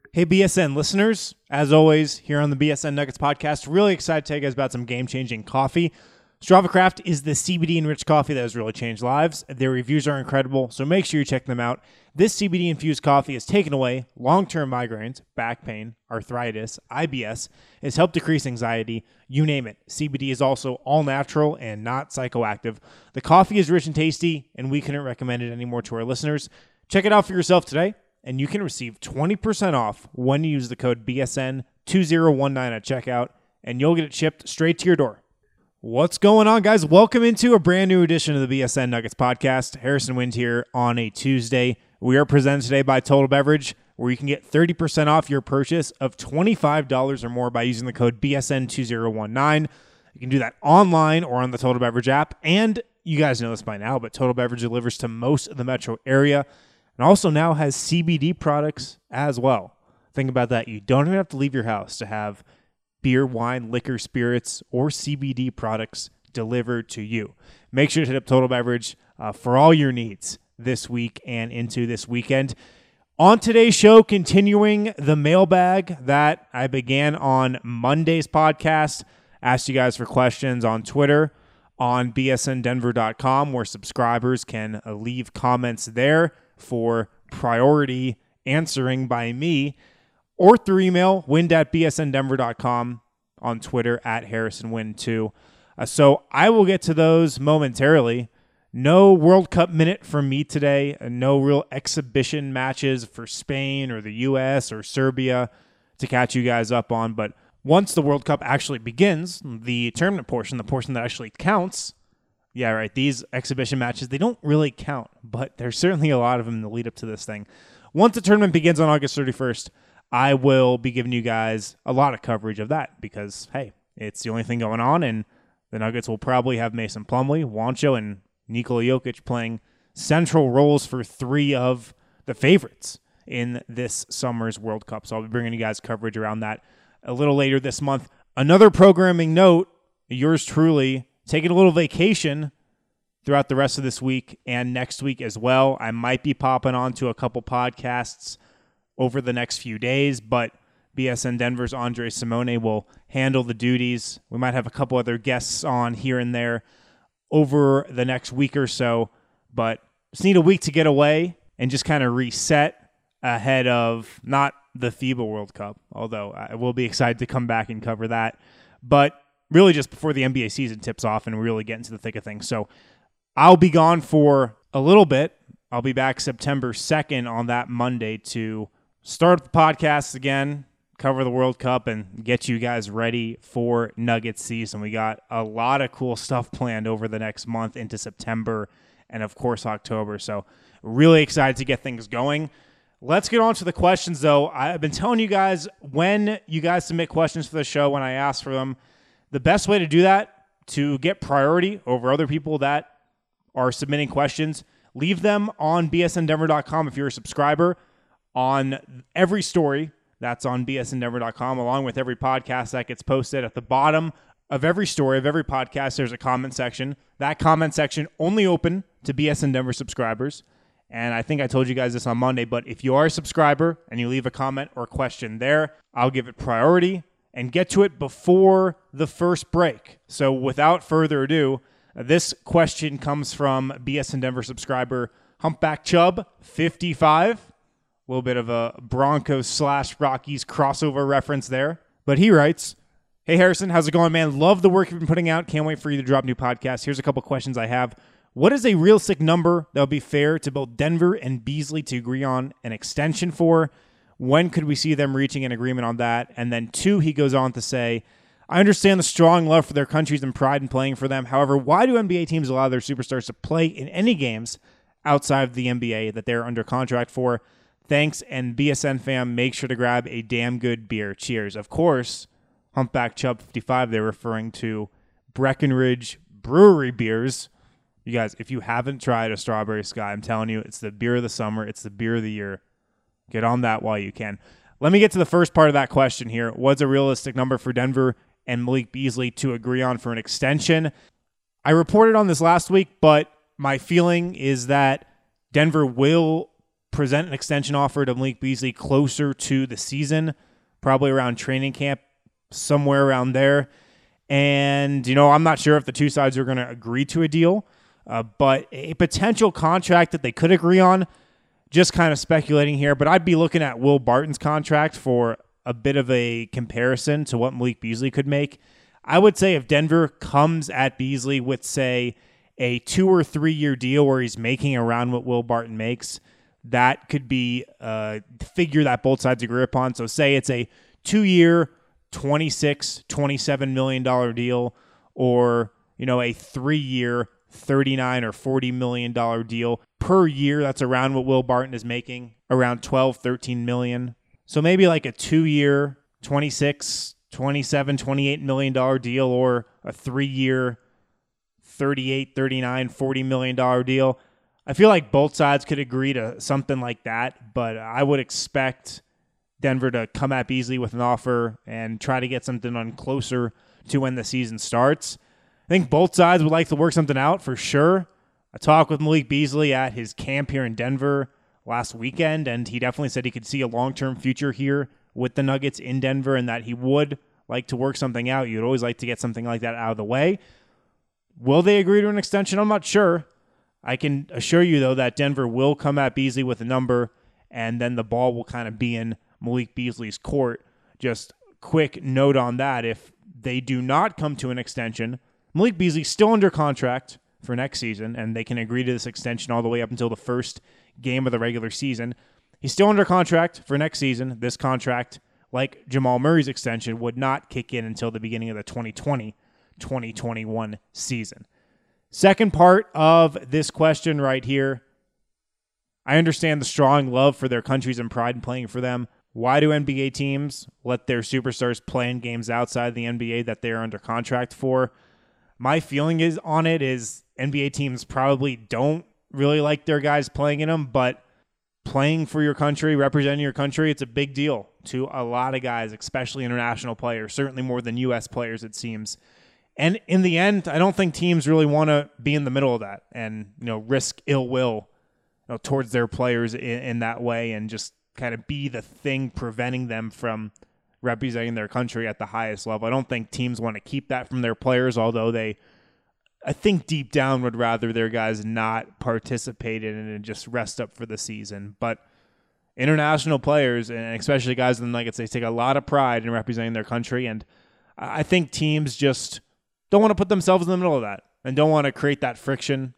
Hey, BSN listeners. As always, here on the BSN Nuggets podcast, really excited to tell you guys about some game-changing coffee. Strava Craft is the CBD-enriched coffee that has really changed lives. Their reviews are incredible, so make sure you check them out. This CBD-infused coffee has taken away long-term migraines, back pain, arthritis, IBS. It's helped decrease anxiety, you name it. CBD is also all-natural and not psychoactive. The coffee is rich and tasty, and we couldn't recommend it anymore to our listeners. Check it out for yourself today, and you can receive 20% off when you use the code BSN2019 at checkout, and you'll get it shipped straight to your door. What's going on, guys? Welcome into a brand new edition of the BSN Nuggets podcast. Harrison Wind here on a Tuesday. We are presented today by Total Beverage, where you can get 30% off your purchase of $25 or more by using the code BSN2019. You can do that online or on the Total Beverage app, and you guys know this by now, but Total Beverage delivers to most of the metro area and also now has CBD products as well. Think about that. You don't even have to leave your house to have beer, wine, liquor, spirits, or CBD products delivered to you. Make sure to hit up Total Beverage for all your needs this week and into this weekend. On today's show, continuing the mailbag that I began on Monday's podcast, asked you guys for questions on Twitter, on bsndenver.com, where subscribers can leave comments there for priority answering by me, or through email, wind@bsndenver.com, on Twitter @HarrisonWind2. So I will get to those momentarily. No World Cup minute from me today. No real exhibition matches for Spain or the U.S. or Serbia to catch you guys up on. But once the World Cup actually begins, the tournament portion, the portion that actually counts, yeah, right, these exhibition matches, they don't really count, but there's certainly a lot of them in the lead up to this thing. Once the tournament begins on August 31st, I will be giving you guys a lot of coverage of that because, hey, it's the only thing going on, and the Nuggets will probably have Mason Plumlee, Juancho, and Nikola Jokic playing central roles for three of the favorites in this summer's World Cup. So I'll be bringing you guys coverage around that a little later this month. Another programming note, yours truly, taking a little vacation throughout the rest of this week and next week as well. I might be popping on to a couple podcasts over the next few days, but BSN Denver's Andre Simone will handle the duties. We might have a couple other guests on here and there over the next week or so, but just need a week to get away and just kind of reset ahead of not the FIBA World Cup, although I will be excited to come back and cover that, but really just before the NBA season tips off and we really get into the thick of things. So I'll be gone for a little bit. I'll be back September 2nd on that Monday to start the podcast again, cover the World Cup, and get you guys ready for Nuggets season. We got a lot of cool stuff planned over the next month into September and, of course, October. So really excited to get things going. Let's get on to the questions, though. I've been telling you guys when you guys submit questions for the show, when I ask for them, the best way to do that, to get priority over other people that are submitting questions, leave them on bsndenver.com if you're a subscriber. On every story that's on bsndenver.com, along with every podcast that gets posted, at the bottom of every story of every podcast, there's a comment section. That comment section only open to BSN Denver subscribers. And I think I told you guys this on Monday, but if you are a subscriber and you leave a comment or question there, I'll give it priority and get to it before the first break. So without further ado, this question comes from BSN Denver subscriber Humpback Chubb 55. A little bit of a Broncos/Rockies crossover reference there. But he writes, "Hey Harrison, how's it going, man? Love the work you've been putting out. Can't wait for you to drop new podcasts. Here's a couple questions I have. What is a realistic number that would be fair to both Denver and Beasley to agree on an extension for? When could we see them reaching an agreement on that? And then 2, he goes on to say, I understand the strong love for their countries and pride in playing for them. However, why do NBA teams allow their superstars to play in any games outside of the NBA that they're under contract for? Thanks, and BSN fam, make sure to grab a damn good beer. Cheers." Of course, Humpback Chubb 55, they're referring to Breckenridge Brewery beers. You guys, if you haven't tried a Strawberry Sky, I'm telling you, it's the beer of the summer. It's the beer of the year. Get on that while you can. Let me get to the first part of that question here. What's a realistic number for Denver and Malik Beasley to agree on for an extension? I reported on this last week, but my feeling is that Denver will present an extension offer to Malik Beasley closer to the season, probably around training camp, somewhere around there. And, I'm not sure if the two sides are going to agree to a deal, but a potential contract that they could agree on, just kind of speculating here, but I'd be looking at Will Barton's contract for a bit of a comparison to what Malik Beasley could make. I would say if Denver comes at Beasley with, say, a 2 or 3 year deal where he's making around what Will Barton makes, that could be a figure that both sides agree upon. So say it's a 2-year, $27 million deal, or, a 3-year, $39 or $40 million deal per year. That's around what Will Barton is making, around $13 million. So maybe like a 2-year, $26, $27, $28 million deal, or a 3-year, $38, $39, $40 million deal. I feel like both sides could agree to something like that, but I would expect Denver to come at Beasley with an offer and try to get something on closer to when the season starts. I think both sides would like to work something out for sure. I talked with Malik Beasley at his camp here in Denver last weekend, and he definitely said he could see a long-term future here with the Nuggets in Denver and that he would like to work something out. You'd always like to get something like that out of the way. Will they agree to an extension? I'm not sure. I can assure you, though, that Denver will come at Beasley with a number, and then the ball will kind of be in Malik Beasley's court. Just quick note on that. If they do not come to an extension, Malik Beasley's still under contract for next season, and they can agree to this extension all the way up until the first game of the regular season. He's still under contract for next season. This contract, like Jamal Murray's extension, would not kick in until the beginning of the 2020-2021 season. Second part of this question right here. I understand the strong love for their countries and pride in playing for them. Why do NBA teams let their superstars play in games outside the NBA that they're under contract for? My feeling is NBA teams probably don't really like their guys playing in them, but playing for your country, representing your country, it's a big deal to a lot of guys, especially international players, certainly more than U.S. players, it seems. And in the end, I don't think teams really want to be in the middle of that and, risk ill will towards their players in that way and just kind of be the thing preventing them from representing their country at the highest level. I don't think teams want to keep that from their players, although I think deep down would rather their guys not participate in it and just rest up for the season. But international players, and especially guys in the Nuggets, they take a lot of pride in representing their country, and I think teams just don't want to put themselves in the middle of that and don't want to create that friction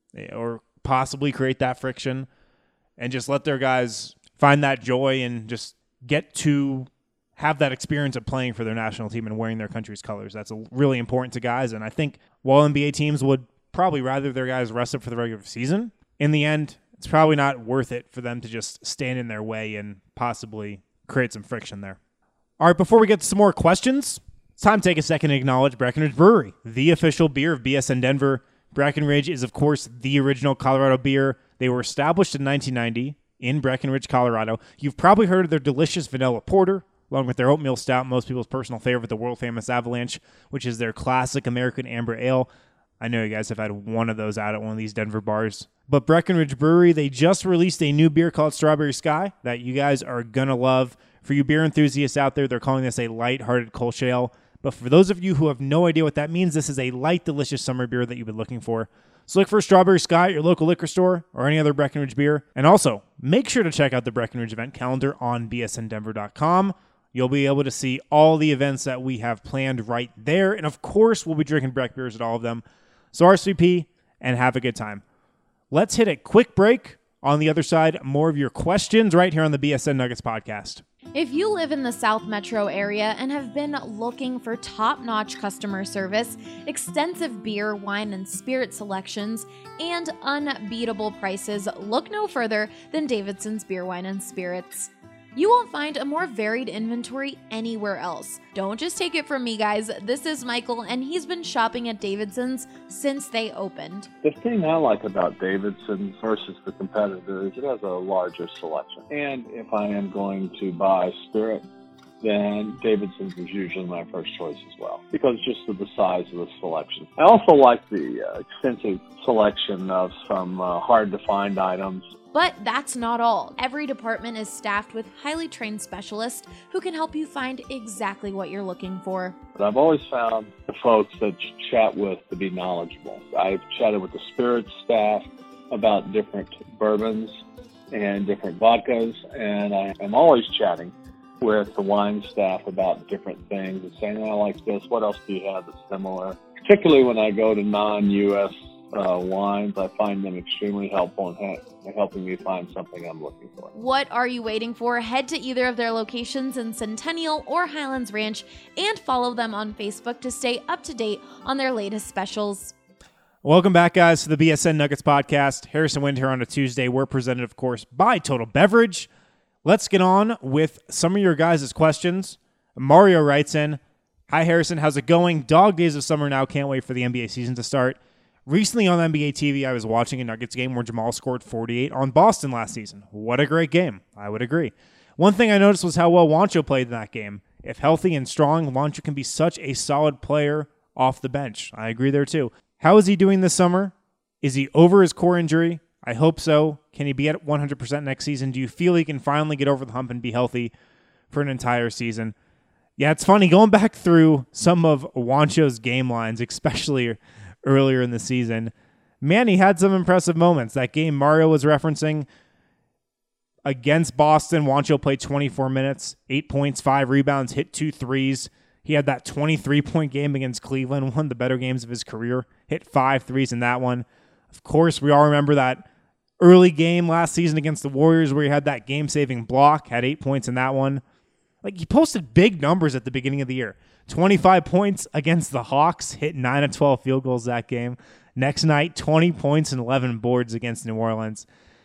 or possibly create that friction and just let their guys find that joy and just get to have that experience of playing for their national team and wearing their country's colors. That's really important to guys. And I think while NBA teams would probably rather their guys rest up for the regular season, in the end, it's probably not worth it for them to just stand in their way and possibly create some friction there. All right, before we get to some more questions, it's time to take a second to acknowledge Breckenridge Brewery, the official beer of BSN Denver. Breckenridge is, of course, the original Colorado beer. They were established in 1990 in Breckenridge, Colorado. You've probably heard of their delicious vanilla porter, along with their oatmeal stout, most people's personal favorite, the world-famous Avalanche, which is their classic American amber ale. I know you guys have had one of those out at one of these Denver bars. But Breckenridge Brewery, they just released a new beer called Strawberry Sky that you guys are going to love. For you beer enthusiasts out there, they're calling this a light-hearted Kolsch ale. But for those of you who have no idea what that means, this is a light, delicious summer beer that you've been looking for. So look for Strawberry Sky at your local liquor store or any other Breckenridge beer. And also, make sure to check out the Breckenridge event calendar on bsndenver.com. You'll be able to see all the events that we have planned right there. And of course, we'll be drinking Breck beers at all of them. So RSVP and have a good time. Let's hit a quick break. On the other side, more of your questions right here on the BSN Nuggets podcast. If you live in the South Metro area and have been looking for top-notch customer service, extensive beer, wine, and spirit selections, and unbeatable prices, look no further than Davidson's Beer, Wine, and Spirits. You won't find a more varied inventory anywhere else. Don't just take it from me, guys. This is Michael, and he's been shopping at Davidson's since they opened. The thing I like about Davidson's versus the competitor is it has a larger selection. And if I am going to buy spirit, then Davidson's is usually my first choice as well, because just of the size of the selection. I also like the extensive selection of some hard-to-find items But that's not all. Every department is staffed with highly trained specialists who can help you find exactly what you're looking for. But I've always found the folks that you chat with to be knowledgeable. I've chatted with the spirits staff about different bourbons and different vodkas, and I am always chatting with the wine staff about different things and saying, I like this, what else do you have that's similar? Particularly when I go to non-U.S. Wines, I find them extremely helpful in helping me find something I'm looking for. What are you waiting for? Head to either of their locations in Centennial or Highlands Ranch and follow them on Facebook to stay up to date on their latest specials. Welcome back, guys, to the BSN Nuggets podcast. Harrison Wind here on a Tuesday. We're presented, of course, by Total Beverage. Let's get on with some of your guys' questions. Mario writes in, Hi, Harrison. How's it going? Dog days of summer now. Can't wait for the NBA season to start. Recently on NBA TV, I was watching a Nuggets game where Jamal scored 48 on Boston last season. What a great game. I would agree. One thing I noticed was how well Juancho played in that game. If healthy and strong, Juancho can be such a solid player off the bench. I agree there too. How is he doing this summer? Is he over his core injury? I hope so. Can he be at 100% next season? Do you feel he can finally get over the hump and be healthy for an entire season? Yeah, it's funny. Going back through some of Juancho's game lines, especially earlier in the season, man, he had some impressive moments. That game Mario was referencing against Boston, Juancho played 24 minutes, 8 points, 5 rebounds, hit 2 threes. He had that 23-point game against Cleveland, one of the better games of his career, hit 5 threes in that one. Of course, we all remember that early game last season against the Warriors where he had that game-saving block, had 8 points in that one. Like, he posted big numbers at the beginning of the year. 25 points against the Hawks, hit 9 of 12 field goals that game. Next night, 20 points and 11 boards against New Orleans.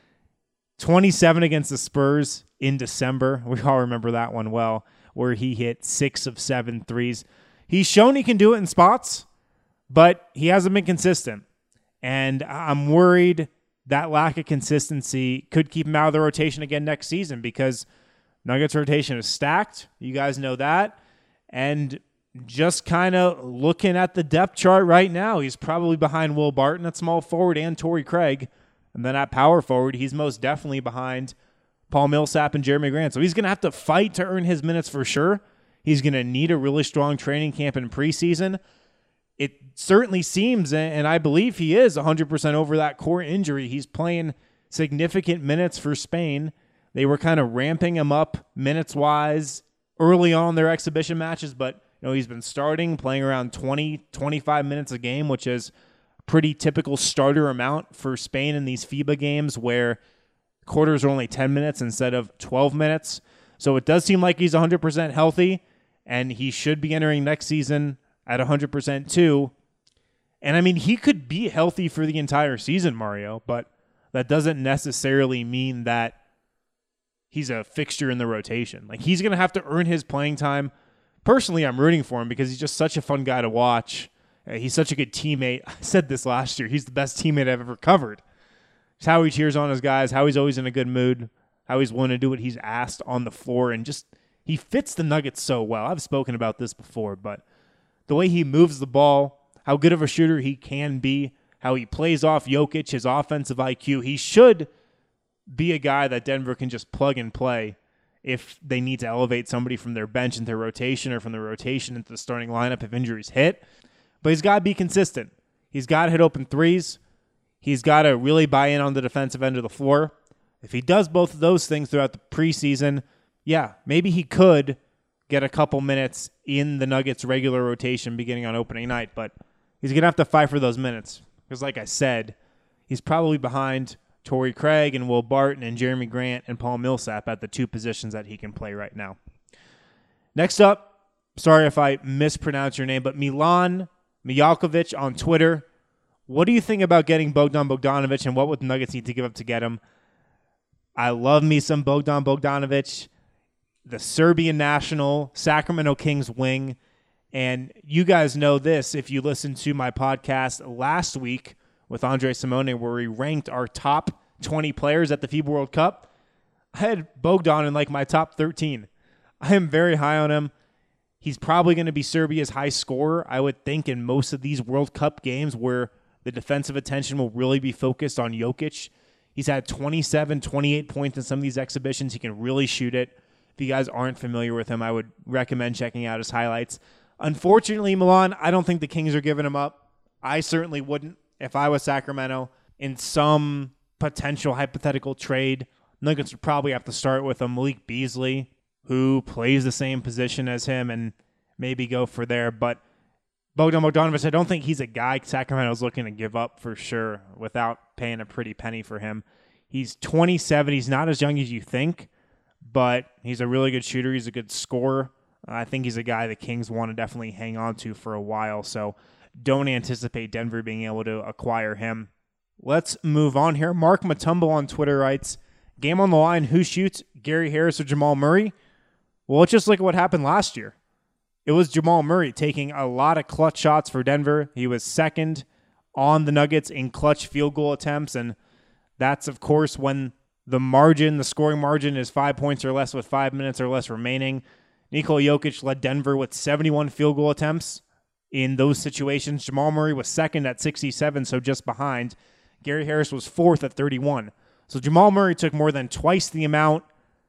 27 against the Spurs in December. We all remember that one well, where he hit 6 of 7 threes. He's shown he can do it in spots, but he hasn't been consistent. And I'm worried that lack of consistency could keep him out of the rotation again next season because Nuggets rotation is stacked. You guys know that. And just kind of looking at the depth chart right now, he's probably behind Will Barton at small forward and Torrey Craig. And then at power forward, he's most definitely behind Paul Millsap and Jeremy Grant. So he's going to have to fight to earn his minutes for sure. He's going to need a really strong training camp in preseason. It certainly seems, and I believe he is 100% over that core injury. He's playing significant minutes for Spain. They were kind of ramping him up minutes-wise early on in their exhibition matches, but he's been starting, playing around 20, 25 minutes a game, which is pretty typical starter amount for Spain in these FIBA games where quarters are only 10 minutes instead of 12 minutes. So it does seem like he's 100% healthy, and he should be entering next season at 100% too. And I mean, he could be healthy for the entire season, Mario, but that doesn't necessarily mean that he's a fixture in the rotation. Like, he's going to have to earn his playing time. Personally, I'm rooting for him because he's just such a fun guy to watch. He's such a good teammate. I said this last year. He's the best teammate I've ever covered. It's how he cheers on his guys, how he's always in a good mood, how he's willing to do what he's asked on the floor, and just he fits the Nuggets so well. I've spoken about this before, but the way he moves the ball, how good of a shooter he can be, how he plays off Jokic, his offensive IQ, he should be a guy that Denver can just plug and play if they need to elevate somebody from their bench into their rotation or from the rotation into the starting lineup if injuries hit. But he's got to be consistent. He's got to hit open threes. He's got to really buy in on the defensive end of the floor. If he does both of those things throughout the preseason, yeah, maybe he could get a couple minutes in the Nuggets' regular rotation beginning on opening night, but he's going to have to fight for those minutes. Because like I said, he's probably behind Torrey Craig and Will Barton and Jeremy Grant and Paul Millsap at the two positions that he can play right now. Next up, sorry if I mispronounce your name, but Milan Mijalkovic on Twitter. What do you think about getting Bogdan Bogdanovic, and what would the Nuggets need to give up to get him? I love me some Bogdan Bogdanovic, the Serbian national, Sacramento Kings wing. And you guys know this if you listened to my podcast last week with Andre Simone, where we ranked our top 20 players at the FIBA World Cup. I had Bogdan in like my top 13. I am very high on him. He's probably going to be Serbia's high scorer, I would think, in most of these World Cup games where the defensive attention will really be focused on Jokic. He's had 27, 28 points in some of these exhibitions. He can really shoot it. If you guys aren't familiar with him, I would recommend checking out his highlights. Unfortunately, Milan, I don't think the Kings are giving him up. I certainly wouldn't if I was Sacramento. In some potential hypothetical trade, Nuggets would probably have to start with a Malik Beasley, who plays the same position as him, and maybe go for there. But Bogdan Bogdanovic, I don't think he's a guy Sacramento's looking to give up for sure without paying a pretty penny for him. He's 27. He's not as young as you think, but he's a really good shooter. He's a good scorer. I think he's a guy the Kings want to definitely hang on to for a while, so don't anticipate Denver being able to acquire him. Let's move on here. Mark Matumbo on Twitter writes, game on the line, who shoots, Gary Harris or Jamal Murray? Well, let's just look at what happened last year. It was Jamal Murray taking a lot of clutch shots for Denver. He was second on the Nuggets in clutch field goal attempts, and that's, of course, when the scoring margin is 5 points or less with 5 minutes or less remaining. Nikola Jokic led Denver with 71 field goal attempts in those situations. Jamal Murray was second at 67, so just behind. Gary Harris was fourth at 31. So Jamal Murray took more than twice the amount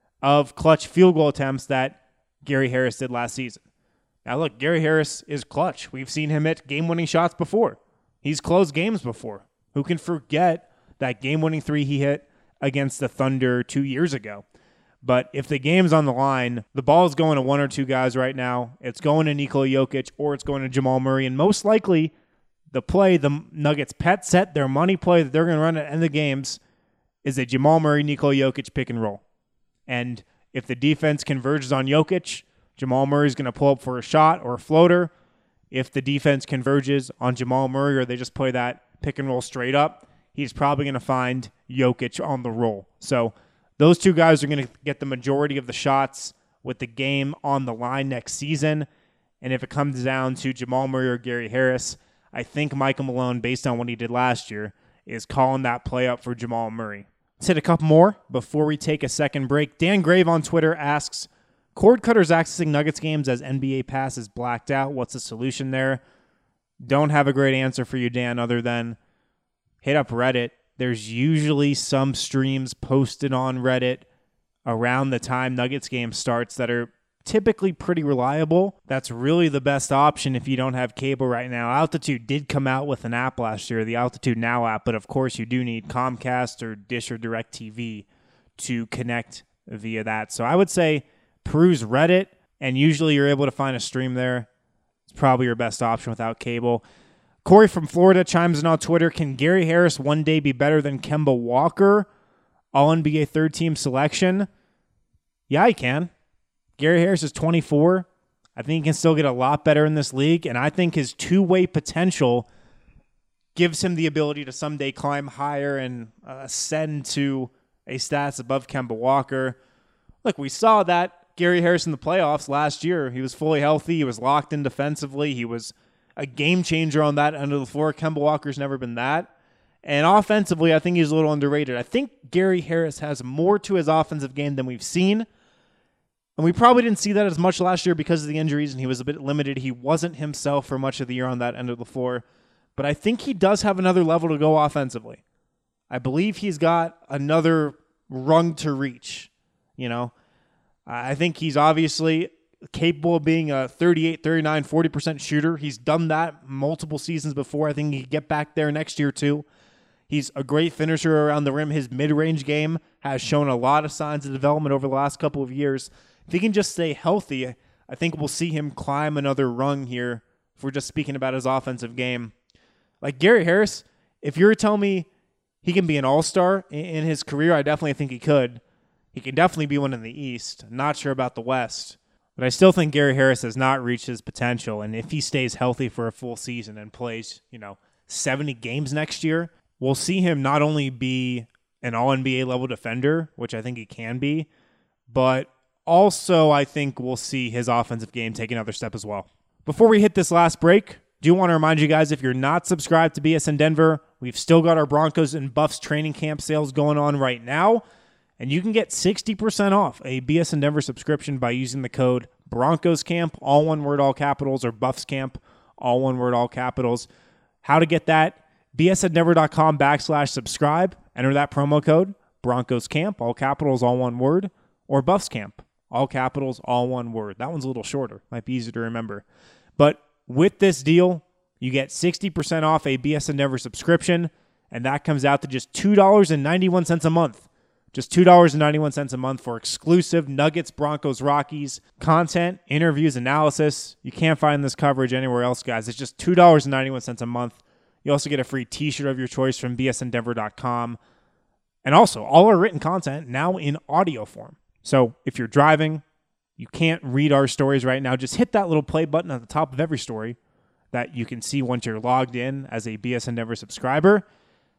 of clutch field goal attempts that Gary Harris did last season. Now look, Gary Harris is clutch. We've seen him hit game-winning shots before. He's closed games before. Who can forget that game-winning three he hit against the Thunder 2 years ago? But if the game's on the line, the ball's going to one or two guys right now. It's going to Nikola Jokic or it's going to Jamal Murray. And most likely, the play the Nuggets pet set, their money play that they're going to run at the end of the games, is a Jamal Murray, Nikola Jokic pick and roll. And if the defense converges on Jokic, Jamal Murray's going to pull up for a shot or a floater. If the defense converges on Jamal Murray or they just play that pick and roll straight up, he's probably going to find Jokic on the roll. So those two guys are going to get the majority of the shots with the game on the line next season. And if it comes down to Jamal Murray or Gary Harris, I think Michael Malone, based on what he did last year, is calling that play up for Jamal Murray. Let's hit a couple more before we take a second break. Dan Grave on Twitter asks, cord cutters accessing Nuggets games as NBA Pass is blacked out. What's the solution there? Don't have a great answer for you, Dan, other than hit up Reddit. There's usually some streams posted on Reddit around the time Nuggets game starts that are typically pretty reliable. That's really the best option if you don't have cable right now. Altitude did come out with an app last year, the Altitude Now app, but of course you do need Comcast or Dish or DirecTV to connect via that. So I would say peruse Reddit, and usually you're able to find a stream there. It's probably your best option without cable. Corey from Florida chimes in on Twitter, can Gary Harris one day be better than Kemba Walker? All-NBA third-team selection? Yeah, he can. Gary Harris is 24. I think he can still get a lot better in this league, and I think his two-way potential gives him the ability to someday climb higher and ascend to a stats above Kemba Walker. Look, we saw that Gary Harris in the playoffs last year. He was fully healthy. He was locked in defensively. He was a game changer on that end of the floor. Kemba Walker's never been that. And offensively, I think he's a little underrated. I think Gary Harris has more to his offensive game than we've seen. And we probably didn't see that as much last year because of the injuries, and he was a bit limited. He wasn't himself for much of the year on that end of the floor. But I think he does have another level to go offensively. I believe he's got another rung to reach. You know, I think he's obviously capable of being a 38, 39, 40% shooter. He's done that multiple seasons before. I think he can get back there next year too. He's a great finisher around the rim. His mid-range game has shown a lot of signs of development over the last couple of years. If he can just stay healthy, I think we'll see him climb another rung here if we're just speaking about his offensive game. Like Gary Harris, if you're telling me he can be an all-star in his career, I definitely think he could. He can definitely be one in the East. Not sure about the West. But I still think Gary Harris has not reached his potential. And if he stays healthy for a full season and plays, 70 games next year, we'll see him not only be an all-NBA level defender, which I think he can be, but also I think we'll see his offensive game take another step as well. Before we hit this last break, do want to remind you guys, if you're not subscribed to BSN Denver, we've still got our Broncos and Buffs training camp sales going on right now. And you can get 60% off a BSN Denver subscription by using the code BroncosCamp, all one word, all capitals, or BuffsCamp, all one word, all capitals. How to get that? bsndenver.com/subscribe. Enter that promo code, Broncos Camp, all capitals, all one word, or Buffs Camp, all capitals, all one word. That one's a little shorter. Might be easier to remember. But with this deal, you get 60% off a BSN Denver subscription, and that comes out to just $2.91 a month. Just $2.91 a month for exclusive Nuggets, Broncos, Rockies content, interviews, analysis. You can't find this coverage anywhere else, guys. It's just $2.91 a month. You also get a free t-shirt of your choice from bsndenver.com. And also, all our written content now in audio form. So if you're driving, you can't read our stories right now, just hit that little play button at the top of every story that you can see once you're logged in as a BSN Denver subscriber,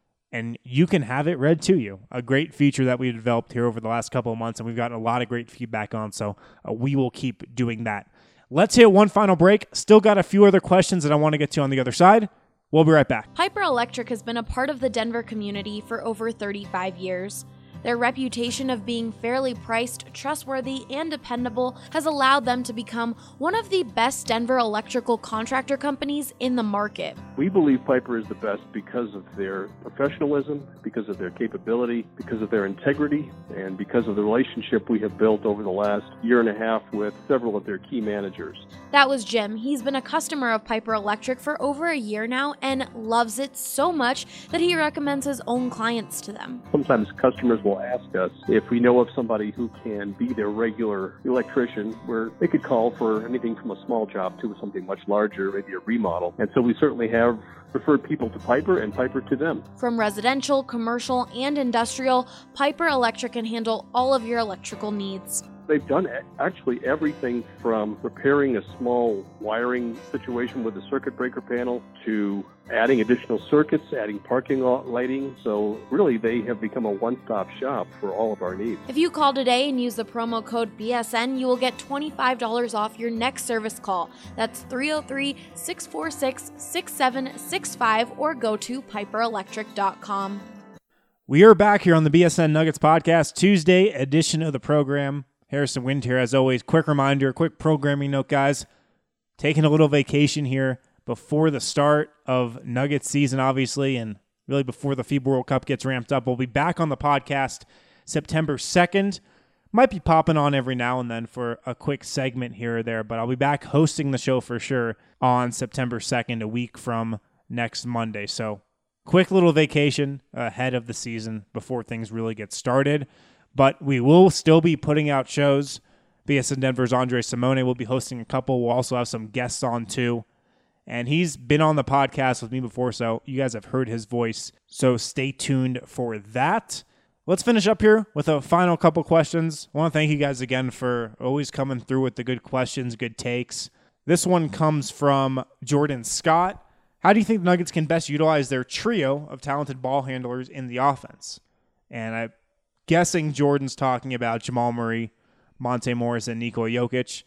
and you can have it read to you. A great feature that we've developed here over the last couple of months, and we've gotten a lot of great feedback on, so we will keep doing that. Let's hit one final break. Still got a few other questions that I want to get to on the other side. We'll be right back. Piper Electric has been a part of the Denver community for over 35 years. Their reputation of being fairly priced, trustworthy, and dependable has allowed them to become one of the best Denver electrical contractor companies in the market. We believe Piper is the best because of their professionalism, because of their capability, because of their integrity, and because of the relationship we have built over the last year and a half with several of their key managers. That was Jim. He's been a customer of Piper Electric for over a year now and loves it so much that he recommends his own clients to them. Sometimes customers will ask us if we know of somebody who can be their regular electrician, where they could call for anything from a small job to something much larger, maybe a remodel. And so we certainly have referred people to Piper and Piper to them. From residential, commercial, and industrial, Piper Electric can handle all of your electrical needs. They've done actually everything from repairing a small wiring situation with a circuit breaker panel to adding additional circuits, adding parking lot lighting. So really, they have become a one-stop shop for all of our needs. If you call today and use the promo code BSN, you will get $25 off your next service call. That's 303-646-6765 or go to piperelectric.com. We are back here on the BSN Nuggets podcast, Tuesday edition of the program. Harrison Wind here, as always. Quick reminder, quick programming note, guys. Taking a little vacation here before the start of Nuggets season, obviously, and really before the FIBA World Cup gets ramped up. We'll be back on the podcast September 2nd. Might be popping on every now and then for a quick segment here or there, but I'll be back hosting the show for sure on September 2nd, a week from next Monday. So quick little vacation ahead of the season before things really get started. But we will still be putting out shows. BSN Denver's Andre Simone will be hosting a couple. We'll also have some guests on too. And he's been on the podcast with me before, so you guys have heard his voice. So stay tuned for that. Let's finish up here with a final couple questions. I want to thank you guys again for always coming through with the good questions, good takes. This one comes from Jordan Scott. How do you think the Nuggets can best utilize their trio of talented ball handlers in the offense? And I'm guessing Jordan's talking about Jamal Murray, Monte Morris, and Nikola Jokic.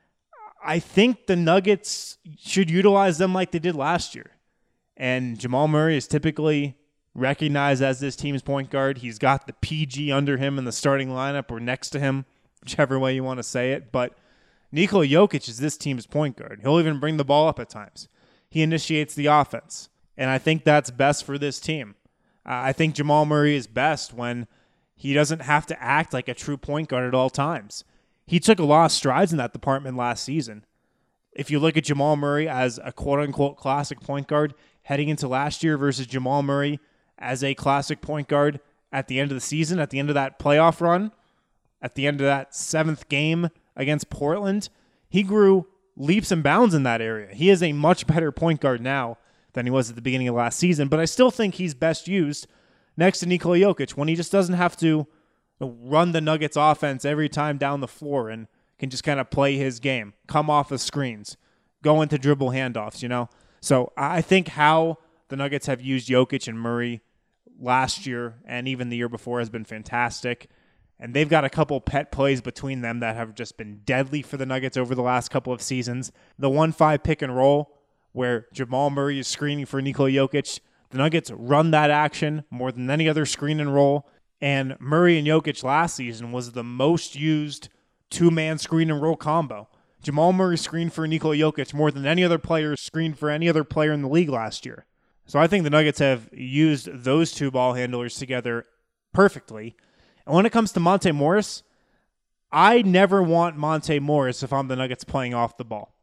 I think the Nuggets should utilize them like they did last year. And Jamal Murray is typically recognized as this team's point guard. He's got the PG under him in the starting lineup or next to him, whichever way you want to say it. But Nikola Jokic is this team's point guard. He'll even bring the ball up at times. He initiates the offense. And I think that's best for this team. I think Jamal Murray is best when he doesn't have to act like a true point guard at all times. He took a lot of strides in that department last season. If you look at Jamal Murray as a quote-unquote classic point guard heading into last year versus Jamal Murray as a classic point guard at the end of the season, at the end of that playoff run, at the end of that 7th game against Portland, he grew leaps and bounds in that area. He is a much better point guard now than he was at the beginning of last season, but I still think he's best used next to Nikola Jokic when he just doesn't have to run the Nuggets offense every time down the floor and can just kind of play his game, come off the screens, go into dribble handoffs, you know? So I think how the Nuggets have used Jokic and Murray last year and even the year before has been fantastic. And they've got a couple pet plays between them that have just been deadly for the Nuggets over the last couple of seasons. The 1-5 pick and roll where Jamal Murray is screening for Nikola Jokic. The Nuggets run that action more than any other screen and roll. And Murray and Jokic last season was the most used two-man screen and roll combo. Jamal Murray screened for Nikola Jokic more than any other player screened for any other player in the league last year. So I think the Nuggets have used those two ball handlers together perfectly. And when it comes to Monte Morris, I never want Monte Morris if I'm the Nuggets playing off the ball.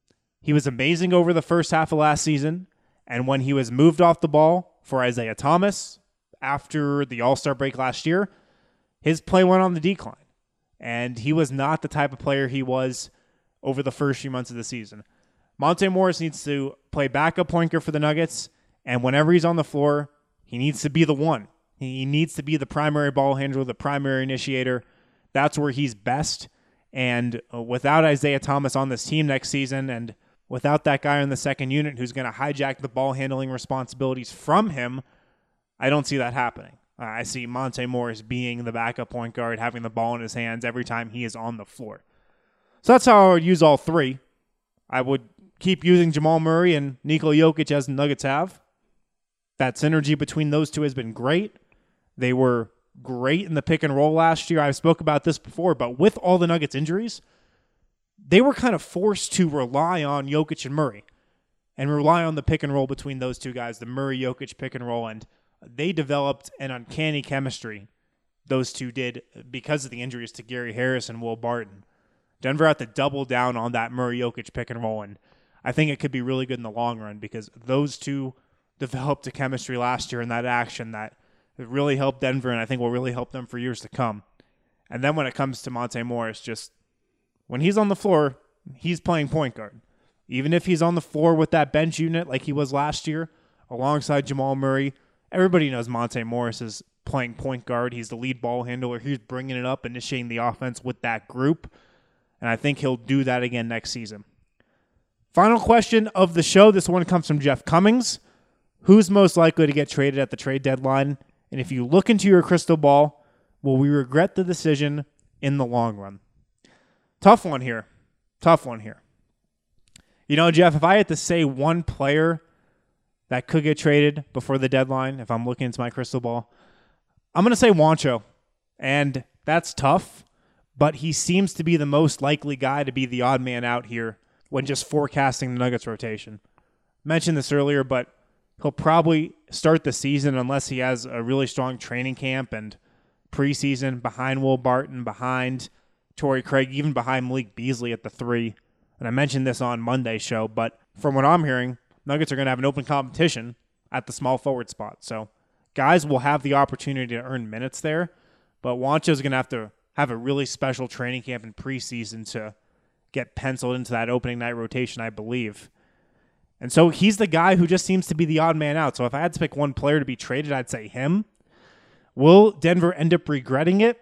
He was amazing over the first half of last season, and when he was moved off the ball for Isaiah Thomas after the All-Star break last year, his play went on the decline. And he was not the type of player he was over the first few months of the season. Monte Morris needs to play backup point guard for the Nuggets, and whenever he's on the floor, he needs to be the one. He needs to be the primary ball handler, the primary initiator. That's where he's best. And without Isaiah Thomas on this team next season, and without that guy in the second unit who's going to hijack the ball handling responsibilities from him, I don't see that happening. I see Monte Morris being the backup point guard, having the ball in his hands every time he is on the floor. So that's how I would use all three. I would keep using Jamal Murray and Nikola Jokic as the Nuggets have. That synergy between those two has been great. They were great in the pick and roll last year. I've spoke about this before, but with all the Nuggets injuries, they were kind of forced to rely on Jokic and Murray and rely on the pick and roll between those two guys, the Murray-Jokic pick and roll, and they developed an uncanny chemistry, those two did, because of the injuries to Gary Harris and Will Barton. Denver had to double down on that Murray-Jokic pick and roll, and I think it could be really good in the long run because those two developed a chemistry last year in that action that really helped Denver and I think will really help them for years to come. And then when it comes to Monte Morris, just when he's on the floor, he's playing point guard. Even if he's on the floor with that bench unit like he was last year alongside Jamal Murray, everybody knows Monte Morris is playing point guard. He's the lead ball handler. He's bringing it up, initiating the offense with that group. And I think he'll do that again next season. Final question of the show. This one comes from Jeff Cummings. Who's most likely to get traded at the trade deadline? And if you look into your crystal ball, will we regret the decision in the long run? Tough one here. You know, Jeff, if I had to say one player that could get traded before the deadline, if I'm looking into my crystal ball, I'm going to say Juancho. And that's tough, but he seems to be the most likely guy to be the odd man out here when just forecasting the Nuggets rotation. Mentioned this earlier, but he'll probably start the season unless he has a really strong training camp and preseason behind Will Barton, behind Torrey Craig, even behind Malik Beasley at the 3. And I mentioned this on Monday's show, but from what I'm hearing, Nuggets are going to have an open competition at the small forward spot. So guys will have the opportunity to earn minutes there, but Juancho's going to have a really special training camp and preseason to get penciled into that opening night rotation, I believe. And so he's the guy who just seems to be the odd man out. So if I had to pick one player to be traded, I'd say him. Will Denver end up regretting it?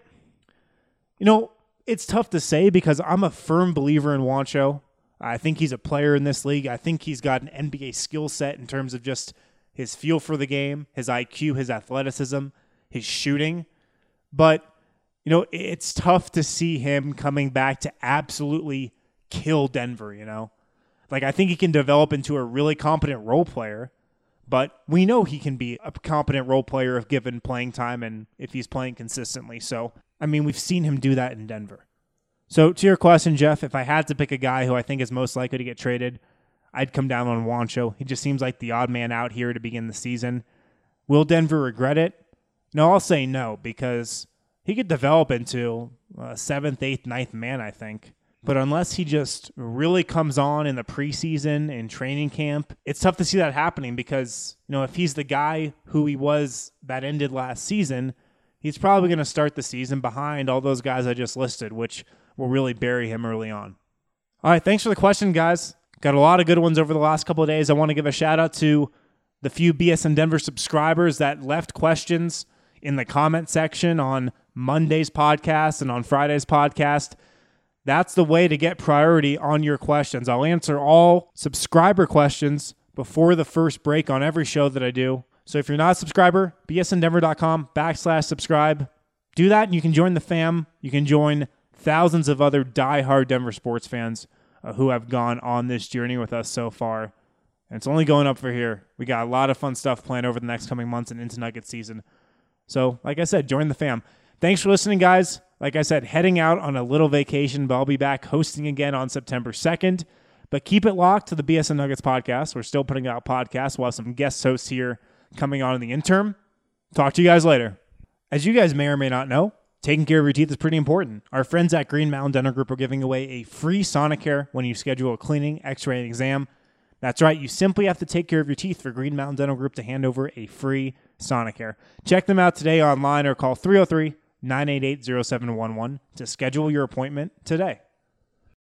You know, it's tough to say because I'm a firm believer in Juancho. I think he's a player in this league. I think he's got an NBA skill set in terms of just his feel for the game, his IQ, his athleticism, his shooting. But, you know, it's tough to see him coming back to absolutely kill Denver, you know? Like, I think he can develop into a really competent role player, but we know he can be a competent role player if given playing time and if he's playing consistently. So, I mean, we've seen him do that in Denver. So, to your question, Jeff, if I had to pick a guy who I think is most likely to get traded, I'd come down on Juancho. He just seems like the odd man out here to begin the season. Will Denver regret it? No, I'll say no, because he could develop into a 7th, 8th, 9th man, I think. But unless he just really comes on in the preseason and training camp, it's tough to see that happening because, you know, if he's the guy who he was that ended last season, he's probably going to start the season behind all those guys I just listed, which will really bury him early on. All right, thanks for the question, guys. Got a lot of good ones over the last couple of days. I want to give a shout out to the few BSN Denver subscribers that left questions in the comment section on Monday's podcast and on Friday's podcast. That's the way to get priority on your questions. I'll answer all subscriber questions before the first break on every show that I do. So if you're not a subscriber, bsndenver.com/subscribe. Do that and you can join the fam. You can join thousands of other diehard Denver sports fans who have gone on this journey with us so far. And it's only going up for here. We got a lot of fun stuff planned over the next coming months and into Nugget season. So, like I said, join the fam. Thanks for listening, guys. Like I said, heading out on a little vacation, but I'll be back hosting again on September 2nd. But keep it locked to the BSN Nuggets podcast. We're still putting out podcasts. We'll have some guest hosts here coming on in the interim. Talk to you guys later. As you guys may or may not know, taking care of your teeth is pretty important. Our friends at Green Mountain Dental Group are giving away a free Sonicare when you schedule a cleaning, x-ray, and exam. That's right, you simply have to take care of your teeth for Green Mountain Dental Group to hand over a free Sonicare. Check them out today online or call 303-988-0711 to schedule your appointment today.